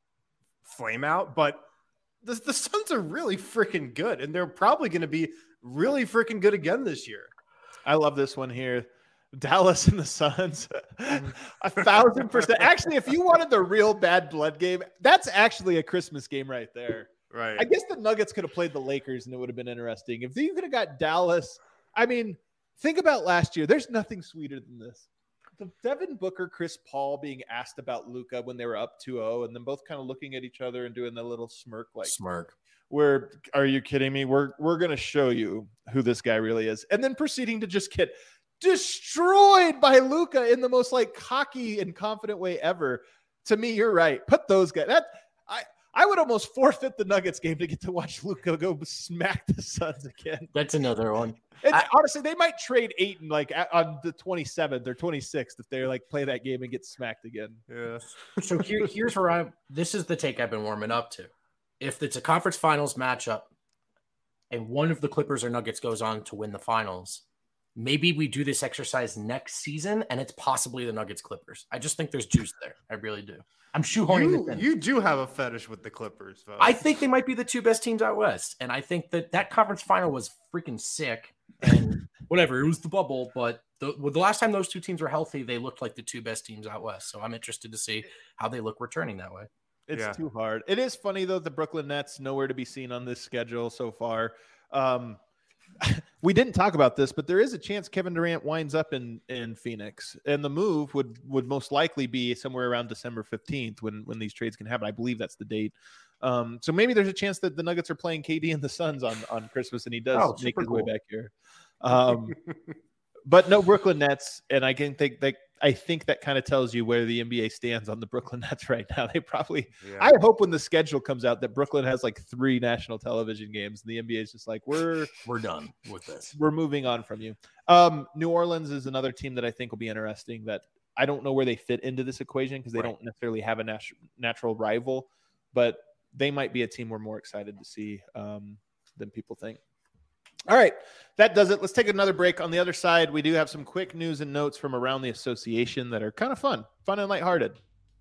flame out, but the, the Suns are really freaking good, and they're probably going to be really freaking good again this year. I love this one here. Dallas and the Suns. A thousand percent. Actually, if you wanted the real bad blood game, that's actually a Christmas game right there. Right. I guess the Nuggets could have played the Lakers and it would have been interesting. If you could have got Dallas, I mean, think about last year. There's nothing sweeter than this. The Devin Booker, Chris Paul being asked about Luka when they were up two oh, and then both kind of looking at each other and doing the little smirk like, Smirk. where, are you kidding me? We're, we're going to show you who this guy really is. And then proceeding to just get destroyed by Luka in the most like cocky and confident way ever. To me, you're right. Put those guys. That I I would almost forfeit the Nuggets game to get to watch Luka go smack the Suns again. That's another one. And I- honestly, they might trade Ayton like at- on the twenty-seventh or twenty-sixth if they like play that game and get smacked again. Yeah. So here, here's where I'm. This is the take I've been warming up to. If it's a conference finals matchup, and one of the Clippers or Nuggets goes on to win the finals, maybe we do this exercise next season, and it's possibly the Nuggets Clippers. I just think there's juice there. I really do. I'm shoehorning You, this in. you do have a fetish with the Clippers, folks. I think they might be the two best teams out west, and I think that that conference final was freaking sick. And whatever, it was the bubble, but the, well, the last time those two teams were healthy, they looked like the two best teams out west. So I'm interested to see how they look returning that way. It's Yeah. too hard. It is funny though. The Brooklyn Nets nowhere to be seen on this schedule so far. Um, we didn't talk about this, but there is a chance Kevin Durant winds up in, in Phoenix, and the move would, would most likely be somewhere around December fifteenth when, when these trades can happen. I believe that's the date. Um, so maybe there's a chance that the Nuggets are playing K D and the Suns on, on Christmas, and he does Oh, make super his way cool. back here. Um, but no Brooklyn Nets. And I can think that, I think that kind of tells you where the N B A stands on the Brooklyn Nets right now. They probably, Yeah. I hope when the schedule comes out that Brooklyn has like three national television games and the N B A is just like, we're, We're done with this. we're moving on from you. Um, New Orleans is another team that I think will be interesting that I don't know where they fit into this equation because they Right. don't necessarily have a nat- natural rival, but they might be a team we're more excited to see um, than people think. All right. That does it. Let's take another break. On the other side, we do have some quick news and notes from around the association that are kind of fun, fun and lighthearted.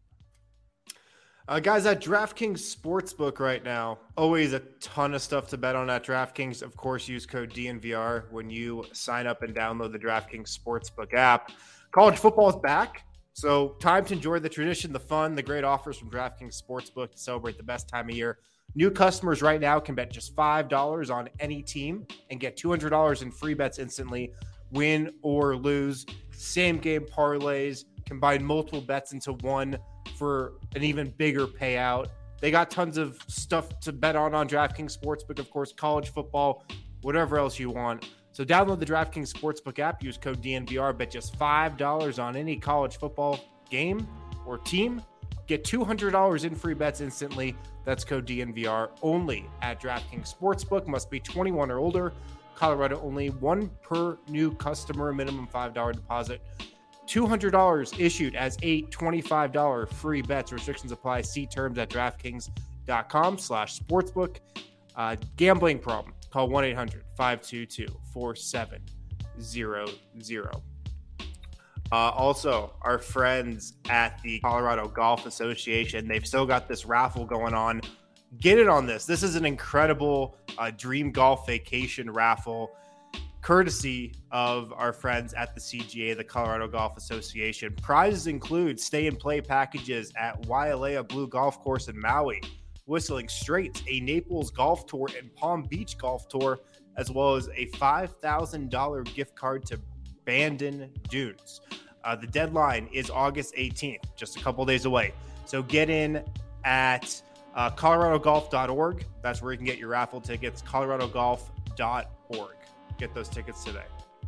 Uh, guys, at DraftKings Sportsbook right now, always a ton of stuff to bet on at DraftKings. Of course, use code D N V R when you sign up and download the DraftKings Sportsbook app. College football is back, so time to enjoy the tradition, the fun, the great offers from DraftKings Sportsbook to celebrate the best time of year. New customers right now can bet just five dollars on any team and get two hundred dollars in free bets instantly, win or lose. Same game parlays, combine multiple bets into one for an even bigger payout. They got tons of stuff to bet on on DraftKings Sportsbook, of course, college football, whatever else you want. So download the DraftKings Sportsbook app, use code D N V R, bet just five dollars on any college football game or team. Get two hundred dollars in free bets instantly. That's code D N V R only at DraftKings Sportsbook. Must be twenty-one or older. Colorado only. One per new customer. Minimum five dollars deposit. two hundred dollars issued as eight twenty-five dollars free bets. Restrictions apply. See terms at DraftKings.com slash sportsbook. Uh, gambling problem. Call one eight hundred five two two four seven zero zero. Uh, also, our friends at the Colorado Golf Association, they've still got this raffle going on. Get it on this. This is an incredible uh, dream golf vacation raffle, courtesy of our friends at the C G A, the Colorado Golf Association. Prizes include stay and play packages at Wailea Blue Golf Course in Maui, Whistling Straits, a Naples golf tour, and Palm Beach golf tour, as well as a five thousand dollars gift card to Bandon Dunes. Uh, the deadline is August eighteenth, just a couple days away. So get in at uh, colorado golf dot org. That's where you can get your raffle tickets, colorado golf dot org. Get those tickets today.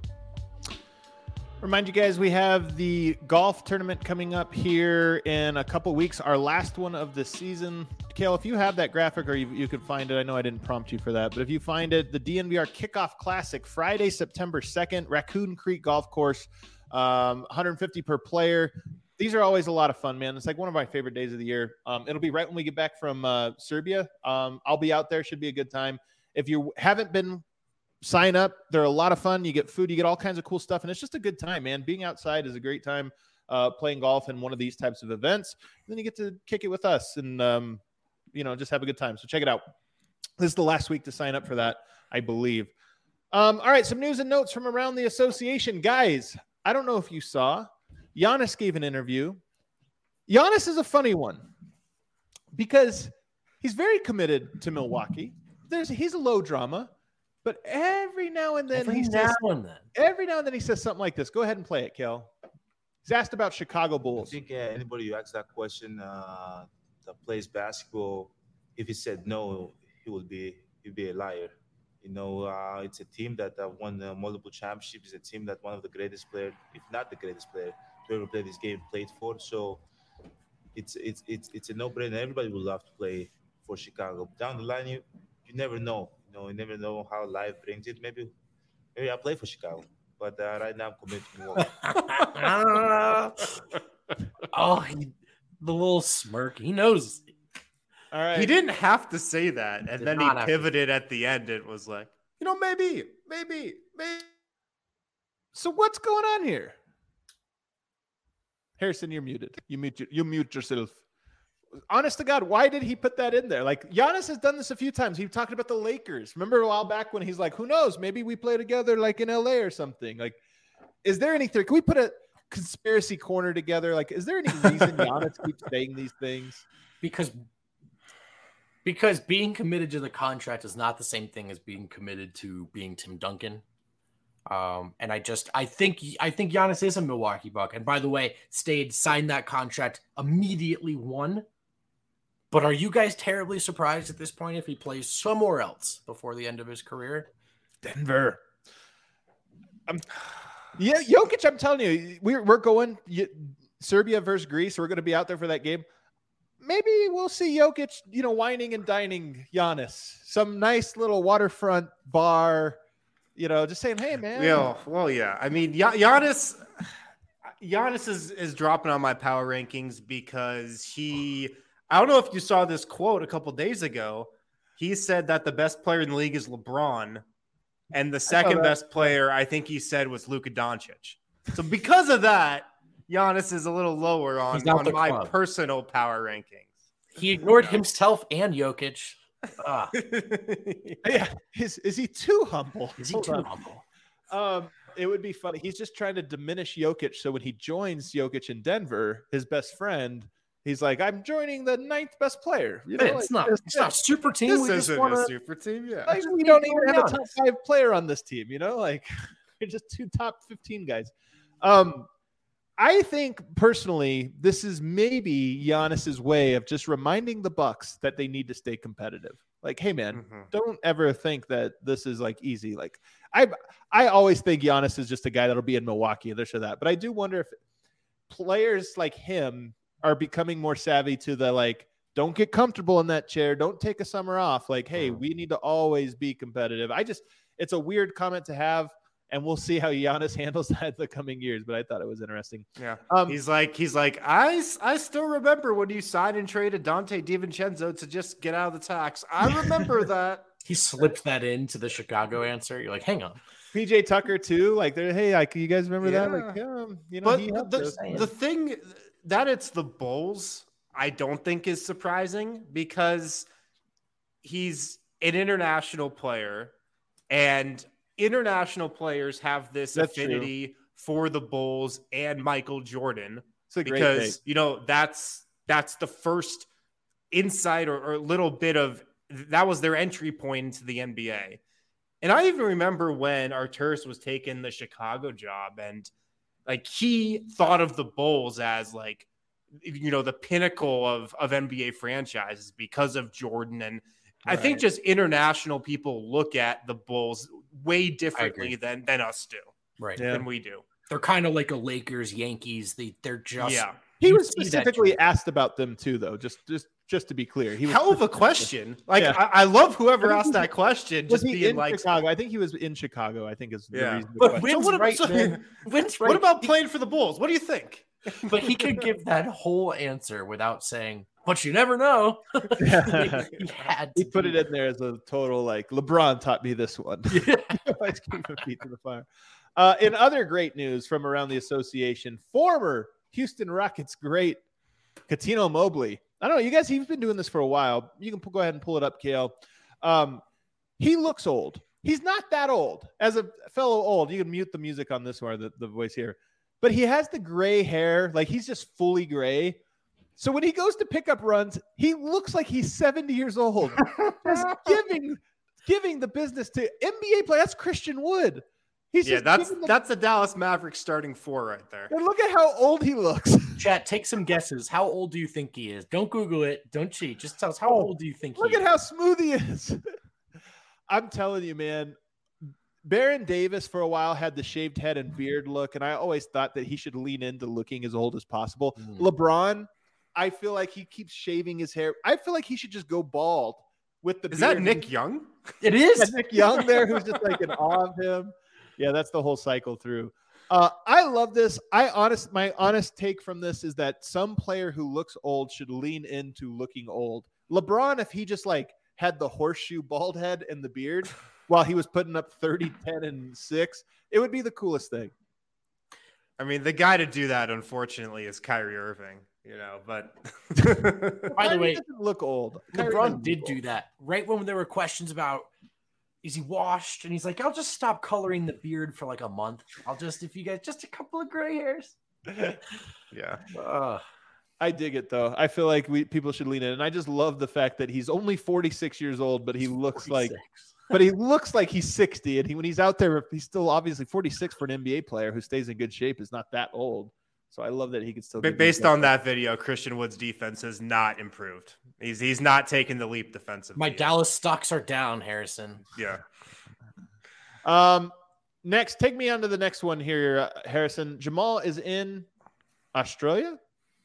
Remind you guys, we have the golf tournament coming up here in a couple weeks, our last one of the season. Kale, if you have that graphic or you, you could find it, I know I didn't prompt you for that, but if you find it, the D N V R Kickoff Classic, Friday, September second, Raccoon Creek Golf Course, um, one hundred fifty per player. These are always a lot of fun, man. It's like one of my favorite days of the year. Um, it'll be right when we get back from uh, Serbia. Um, I'll be out there. Should be a good time. If you haven't been, sign up. They're a lot of fun. You get food, you get all kinds of cool stuff, and it's just a good time, man. Being outside is a great time, uh, playing golf in one of these types of events. And then you get to kick it with us and, um, you know, just have a good time. So check it out. This is the last week to sign up for that, I believe. Um, all right, some news and notes from around the association. Guys, I don't know if you saw, Giannis gave an interview. Giannis is a funny one because he's very committed to Milwaukee. There's, he's a low drama. But every now and then every he now says and then. every now and then he says something like this. Go ahead and play it, Kel. He's asked about Chicago Bulls. I think uh, anybody who asks that question uh, that plays basketball, if he said no, he would be he'd be a liar. You know, uh, it's a team that uh, won uh, multiple championships. It's a team that one of the greatest players, if not the greatest player, to ever play this game played for. So it's it's it's it's a no-brainer. Everybody would love to play for Chicago. Down the line, you you never know. You know, you never know how life brings it. Maybe, maybe I'll play for Chicago. But uh, right now, I'm committed to Milwaukee. Oh, he, the little smirk. He knows. All right. He didn't have to say that. And Did then he not have to. pivoted at the end. It was like, you know, maybe, maybe, maybe. So what's going on here? Harrison, you're muted. You mute you mute yourself. Honest to God, why did he put that in there? Like, Giannis has done this a few times. He talked about the Lakers. Remember a while back when he's like, who knows? Maybe we play together like in L A or something. Like, is there anything? Can we put a conspiracy corner together? Like, is there any reason Giannis keeps saying these things? Because because being committed to the contract is not the same thing as being committed to being Tim Duncan. Um, and I just I think I think Giannis is a Milwaukee Buck. And by the way, stayed, signed that contract, immediately won. But are you guys terribly surprised at this point if he plays somewhere else before the end of his career? Denver. I'm, yeah, Jokic, I'm telling you, we're, we're going you, Serbia versus Greece. We're going to be out there for that game. Maybe we'll see Jokic, you know, whining and dining Giannis. Some nice little waterfront bar, you know, just saying, hey, man. Yeah, well, yeah. I mean, Gian- Giannis, Giannis is, is dropping on my power rankings because he – I don't know if you saw this quote a couple days ago. He said that the best player in the league is LeBron, And the second best player, I think he said, was Luka Doncic. So because of that, Giannis is a little lower on, on my club. personal power rankings. He ignored himself and Jokic. Ah. Yeah, is is he too humble? Is he too humble? Um, it would be funny. He's just trying to diminish Jokic, so when he joins Jokic in Denver, his best friend, he's like, "I'm joining the ninth best player." You know, it's like, not. It's, it's not a super team. This we isn't just wanna, a super team. Yeah, like, we don't even have a top five player on this team. You know, like we're just two top fifteen guys. Um, I think personally, this is maybe Giannis's way of just reminding the Bucks that they need to stay competitive. Like, hey man, mm-hmm. don't ever think that this is like easy. Like, I I always think Giannis is just a guy that'll be in Milwaukee and this or that. But I do wonder if players like him are becoming more savvy to the like, don't get comfortable in that chair. Don't take a summer off. Like, hey, we need to always be competitive. I just, it's a weird comment to have. And we'll see how Giannis handles that in the coming years. But I thought it was interesting. Yeah. Um, he's like, he's like, I, I still remember when you signed and traded Dante DiVincenzo to just get out of the tax. I remember that. He slipped that into the Chicago answer. You're like, hang on. P J Tucker too. Like, they're, hey, like, you guys remember yeah. that? Like, yeah, you know, but he the, the thing that it's the Bulls, I don't think is surprising because he's an international player and international players have this that's affinity true. for the Bulls and Michael Jordan because, you know, that's, that's the first insight or, or little bit of, that was their entry point into the N B A. And I even remember when Arturas was taking the Chicago job and like, he thought of the Bulls as like, you know, the pinnacle of, of N B A franchises because of Jordan. And right. I think just international people look at the Bulls way differently than, than us do. Right. Yeah. Than we do. They're kind of like a Lakers, Yankees. They, they're just, yeah. He was specifically asked about them too, though. Just, just, just to be clear, he was hell of a question. Like, yeah. I, I love whoever asked that question. Just being like Chicago. I think he was in Chicago. I think is the yeah. reason. But so what, right, so, right. What about playing for the Bulls? What do you think? But he could give that whole answer without saying, but you never know. he, he, had he put it in there as a total, like, LeBron taught me this one. Yeah. Let's keep my feet to the fire. Uh, in other great news from around the association, former Houston Rockets great Cuttino Mobley. I don't know, you guys, he's been doing this for a while. You can go ahead and pull it up, Kale. Um, he looks old. He's not that old. As a fellow old, you can mute the music on this one, the, the voice here. But he has the gray hair. Like, he's just fully gray. So when he goes to pick up runs, he looks like he's seventy years old. Just giving, giving the business to N B A player. That's Christian Wood. He's yeah, just that's the, that's the Dallas Mavericks starting four right there. And look at how old he looks. Chat, take some guesses. How old do you think he is? Don't Google it. Don't cheat. Just tell us how old do you think look he is. Look is? at how smooth he is. I'm telling you, man. Baron Davis for a while had the shaved head and beard look, and I always thought that he should lean into looking as old as possible. Mm. LeBron, I feel like he keeps shaving his hair. I feel like he should just go bald with the Is beard. that Nick Young? It is. Yeah, Nick Young there, who's just like in awe of him. Yeah, that's the whole cycle through. Uh, I love this. I honest, my honest take from this is that some player who looks old should lean into looking old. LeBron, if he just like had the horseshoe bald head and the beard while he was putting up thirty, ten, and six, it would be the coolest thing. I mean, the guy to do that, unfortunately, is Kyrie Irving. You know, but by the way, doesn't look old. LeBron did do that right when there were questions about is he washed, and he's like, I'll just stop coloring the beard for like a month. I'll just, if you guys, just a couple of gray hairs. Yeah. Uh, I dig it though. I feel like we people should lean in, and I just love the fact that he's only forty-six years old, but he looks forty-six. like, but he looks like he's sixty, and he when he's out there, he's still obviously forty-six for an N B A player who stays in good shape is not that old. So I love that he can still. But based on that video, Christian Wood's defense has not improved. He's he's not taking the leap defensively. My Dallas stocks are down, Harrison. Yeah. Um. Next, take me on to the next one here, uh, Harrison. Jamal is in Australia.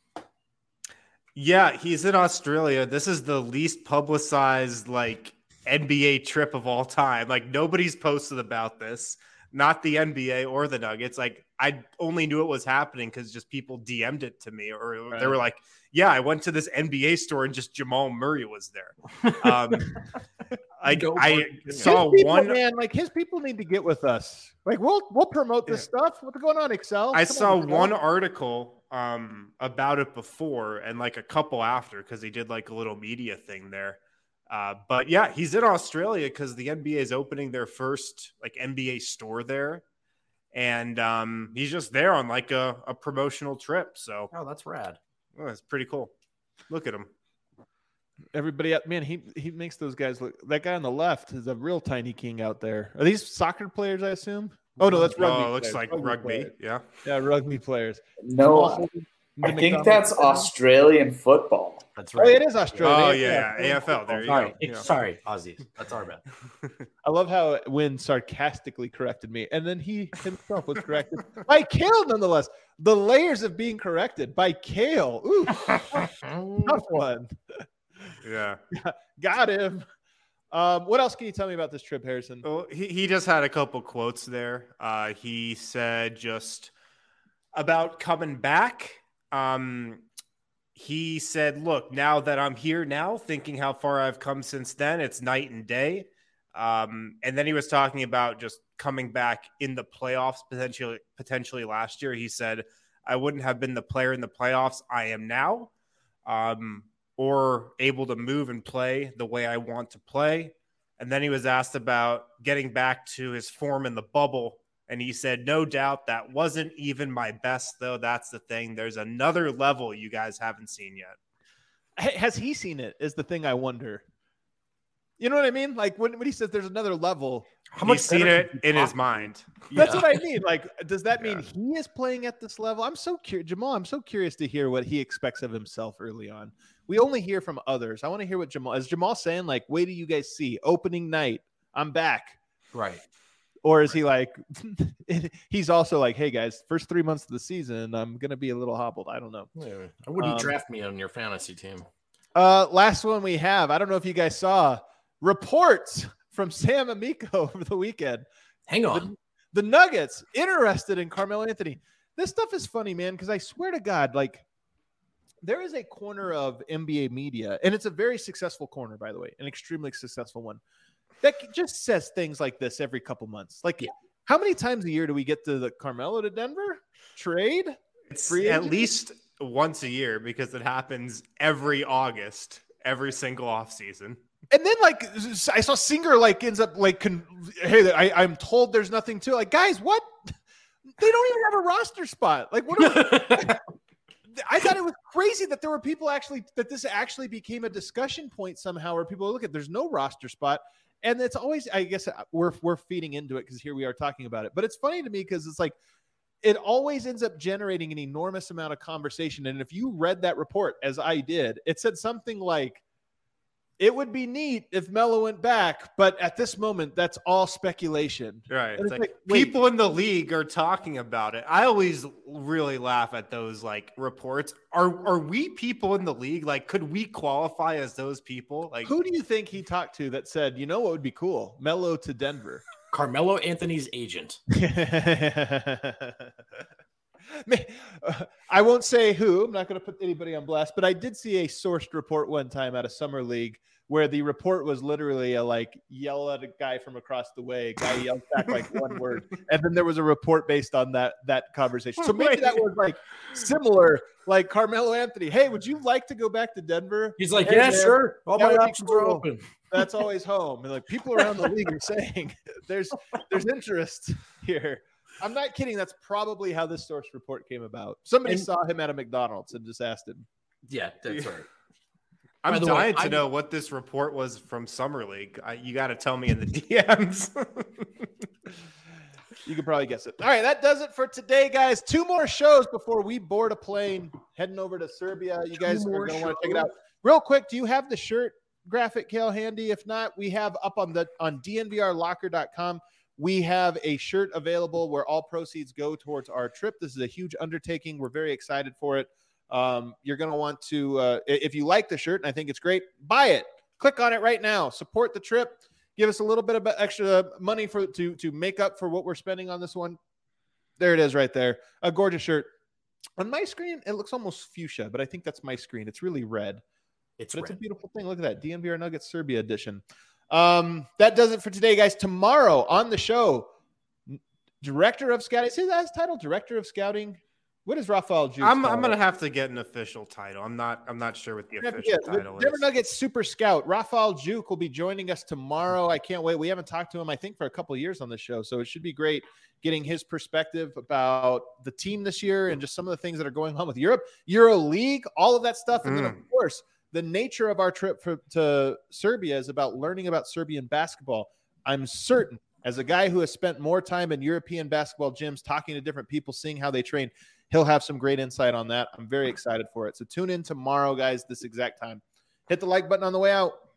Yeah, he's in Australia. This is the least publicized like N B A trip of all time. Like nobody's posted about this. Not the N B A or the Nuggets. Like I only knew it was happening because just people D M'd it to me, or right. They were like, "Yeah, I went to this N B A store and just Jamal Murray was there." Um, Like Go I for it. saw his people, one. man. Like his people need to get with us. Like we'll we'll promote this Yeah. stuff. What's going on, Excel? I Come saw on, Excel. one article um, about it before and like a couple after because he did like a little media thing there. Uh, but yeah, he's in Australia because the N B A is opening their first like N B A store there. And um, he's just there on like a, a promotional trip. So Oh, that's rad. oh, it's pretty cool. Look at him. Everybody, out- man, he he makes those guys look. That guy on the left is a real tiny king out there. Are these soccer players? I assume. Oh no, that's rugby. Oh, it looks players. like rugby. players. Yeah. Yeah, rugby players. No, I think that's Australian football. That's Oh, right. it is Australia. Oh, yeah, yeah. A F L. There you Sorry, go. Ex- Yeah. sorry, Aussies. That's our bad. I love how Wynn sarcastically corrected me, and then he himself was corrected by Kale, nonetheless. The layers of being corrected by Kale. Ooh, tough one. Yeah. Got him. Um, what else can you tell me about this trip, Harrison? Well, he, he just had a couple quotes there. Uh, he said just about coming back. Um, he said, look, now that I'm here now, thinking how far I've come since then, it's night and day. Um, and then he was talking about just coming back in the playoffs potentially, potentially last year. He said, I wouldn't have been the player in the playoffs I am now. Um, or able to move and play the way I want to play. And then he was asked about getting back to his form in the bubble. And he said, no doubt that wasn't even my best, though. That's the thing. There's another level you guys haven't seen yet. Has he seen it? Is the thing I wonder. You know what I mean? Like when, when he says there's another level, How much He's seen it in his mind. that's Yeah. what I mean. Like, does that mean Yeah. he is playing at this level? I'm so curious, Jamal. I'm so curious to hear what he expects of himself early on. We only hear from others. I want to hear what Jamal is. Jamal saying like, "Wait till you guys see opening night. I'm back." Right. Or is he like, he's also like, "Hey guys, first three months of the season, I'm gonna be a little hobbled." I don't know. Yeah, I wouldn't Um, draft me on your fantasy team. Uh, last one we have. I don't know if you guys saw reports from Sam Amico over the weekend. Hang on. The Nuggets interested in Carmelo Anthony. This stuff is funny, man, because I swear to God, like there is a corner of N B A media, and it's a very successful corner, by the way, an extremely successful one, that just says things like this every couple months. Like, Yeah. how many times a year do we get to the Carmelo to Denver trade? It's Free at agent? least once a year because it happens every August, every single offseason. And then, like, I saw Singer, like, ends up, like, con- hey, I, I'm told there's nothing to it. Like, guys, what? They don't even have a roster spot. Like, what are we- I thought it was crazy that there were people actually, that this actually became a discussion point somehow where people look at, there's no roster spot. And it's always, I guess we're, we're feeding into it because here we are talking about it. But it's funny to me because it's like, it always ends up generating an enormous amount of conversation. And if you read that report, as I did, it said something like, it would be neat if Melo went back, but at this moment, that's all speculation. Right. And It's it's like, like, wait. people in the league are talking about it. I always really laugh at those like reports. Are are we people in the league? Like, could we qualify as those people? Like, Who do you think he talked to that said, you know what would be cool? Melo to Denver. Carmelo Anthony's agent. Man, uh, I won't say who. I'm not going to put anybody on blast, but I did see a sourced report one time at a summer league where the report was literally a like yell at a guy from across the way. A guy yelled back like one word, and then there was a report based on that that conversation. So maybe that was like similar, like Carmelo Anthony. Hey, would you like to go back to Denver? He's like, Hey, yeah, man, sure. All that my would be options are cool. open. That's always home. And like people around the league are saying there's there's interest here. I'm not kidding. That's probably how this source report came about. Somebody And- saw him at a McDonald's and just asked him. Yeah, that's right. I'm By the way, dying to I'm- know what this report was from Summer League. I, you got to tell me in the D Ms. You could probably guess it. All right, that does it for today, guys. Two more shows before we board a plane heading over to Serbia. You guys are more going to want to check it shows? out. Real quick, do you have the shirt graphic, Kale, handy? If not, we have up on the on D N V R locker dot com. We have a shirt available where all proceeds go towards our trip. This is a huge undertaking. We're very excited for it. Um, you're going to want to, uh, if you like the shirt and I think it's great, buy it. Click on it right now. Support the trip. Give us a little bit of extra money for to to make up for what we're spending on this one. There it is right there. A gorgeous shirt. On my screen, it looks almost fuchsia, but I think that's my screen. It's really red. It's But it's a red. beautiful thing. Look at that. D N V R Nuggets Serbia edition. Um, that does it for today, guys. Tomorrow on the show, Director of Scouting. Is his title Director of Scouting? What is Rafael Juke? I'm I'm gonna have to get an official title. I'm not I'm not sure what the official get, title Denver is. Nuggets Super Scout Rafael Juke will be joining us tomorrow. I can't wait. We haven't talked to him, I think, for a couple of years on the show, so it should be great getting his perspective about the team this year and just some of the things that are going on with Europe, Euro League, all of that stuff, and mm. then of course the nature of our trip for, to Serbia is about learning about Serbian basketball. I'm certain, as a guy who has spent more time in European basketball gyms, talking to different people, seeing how they train, he'll have some great insight on that. I'm very excited for it. So tune in tomorrow, guys, this exact time. Hit the like button on the way out.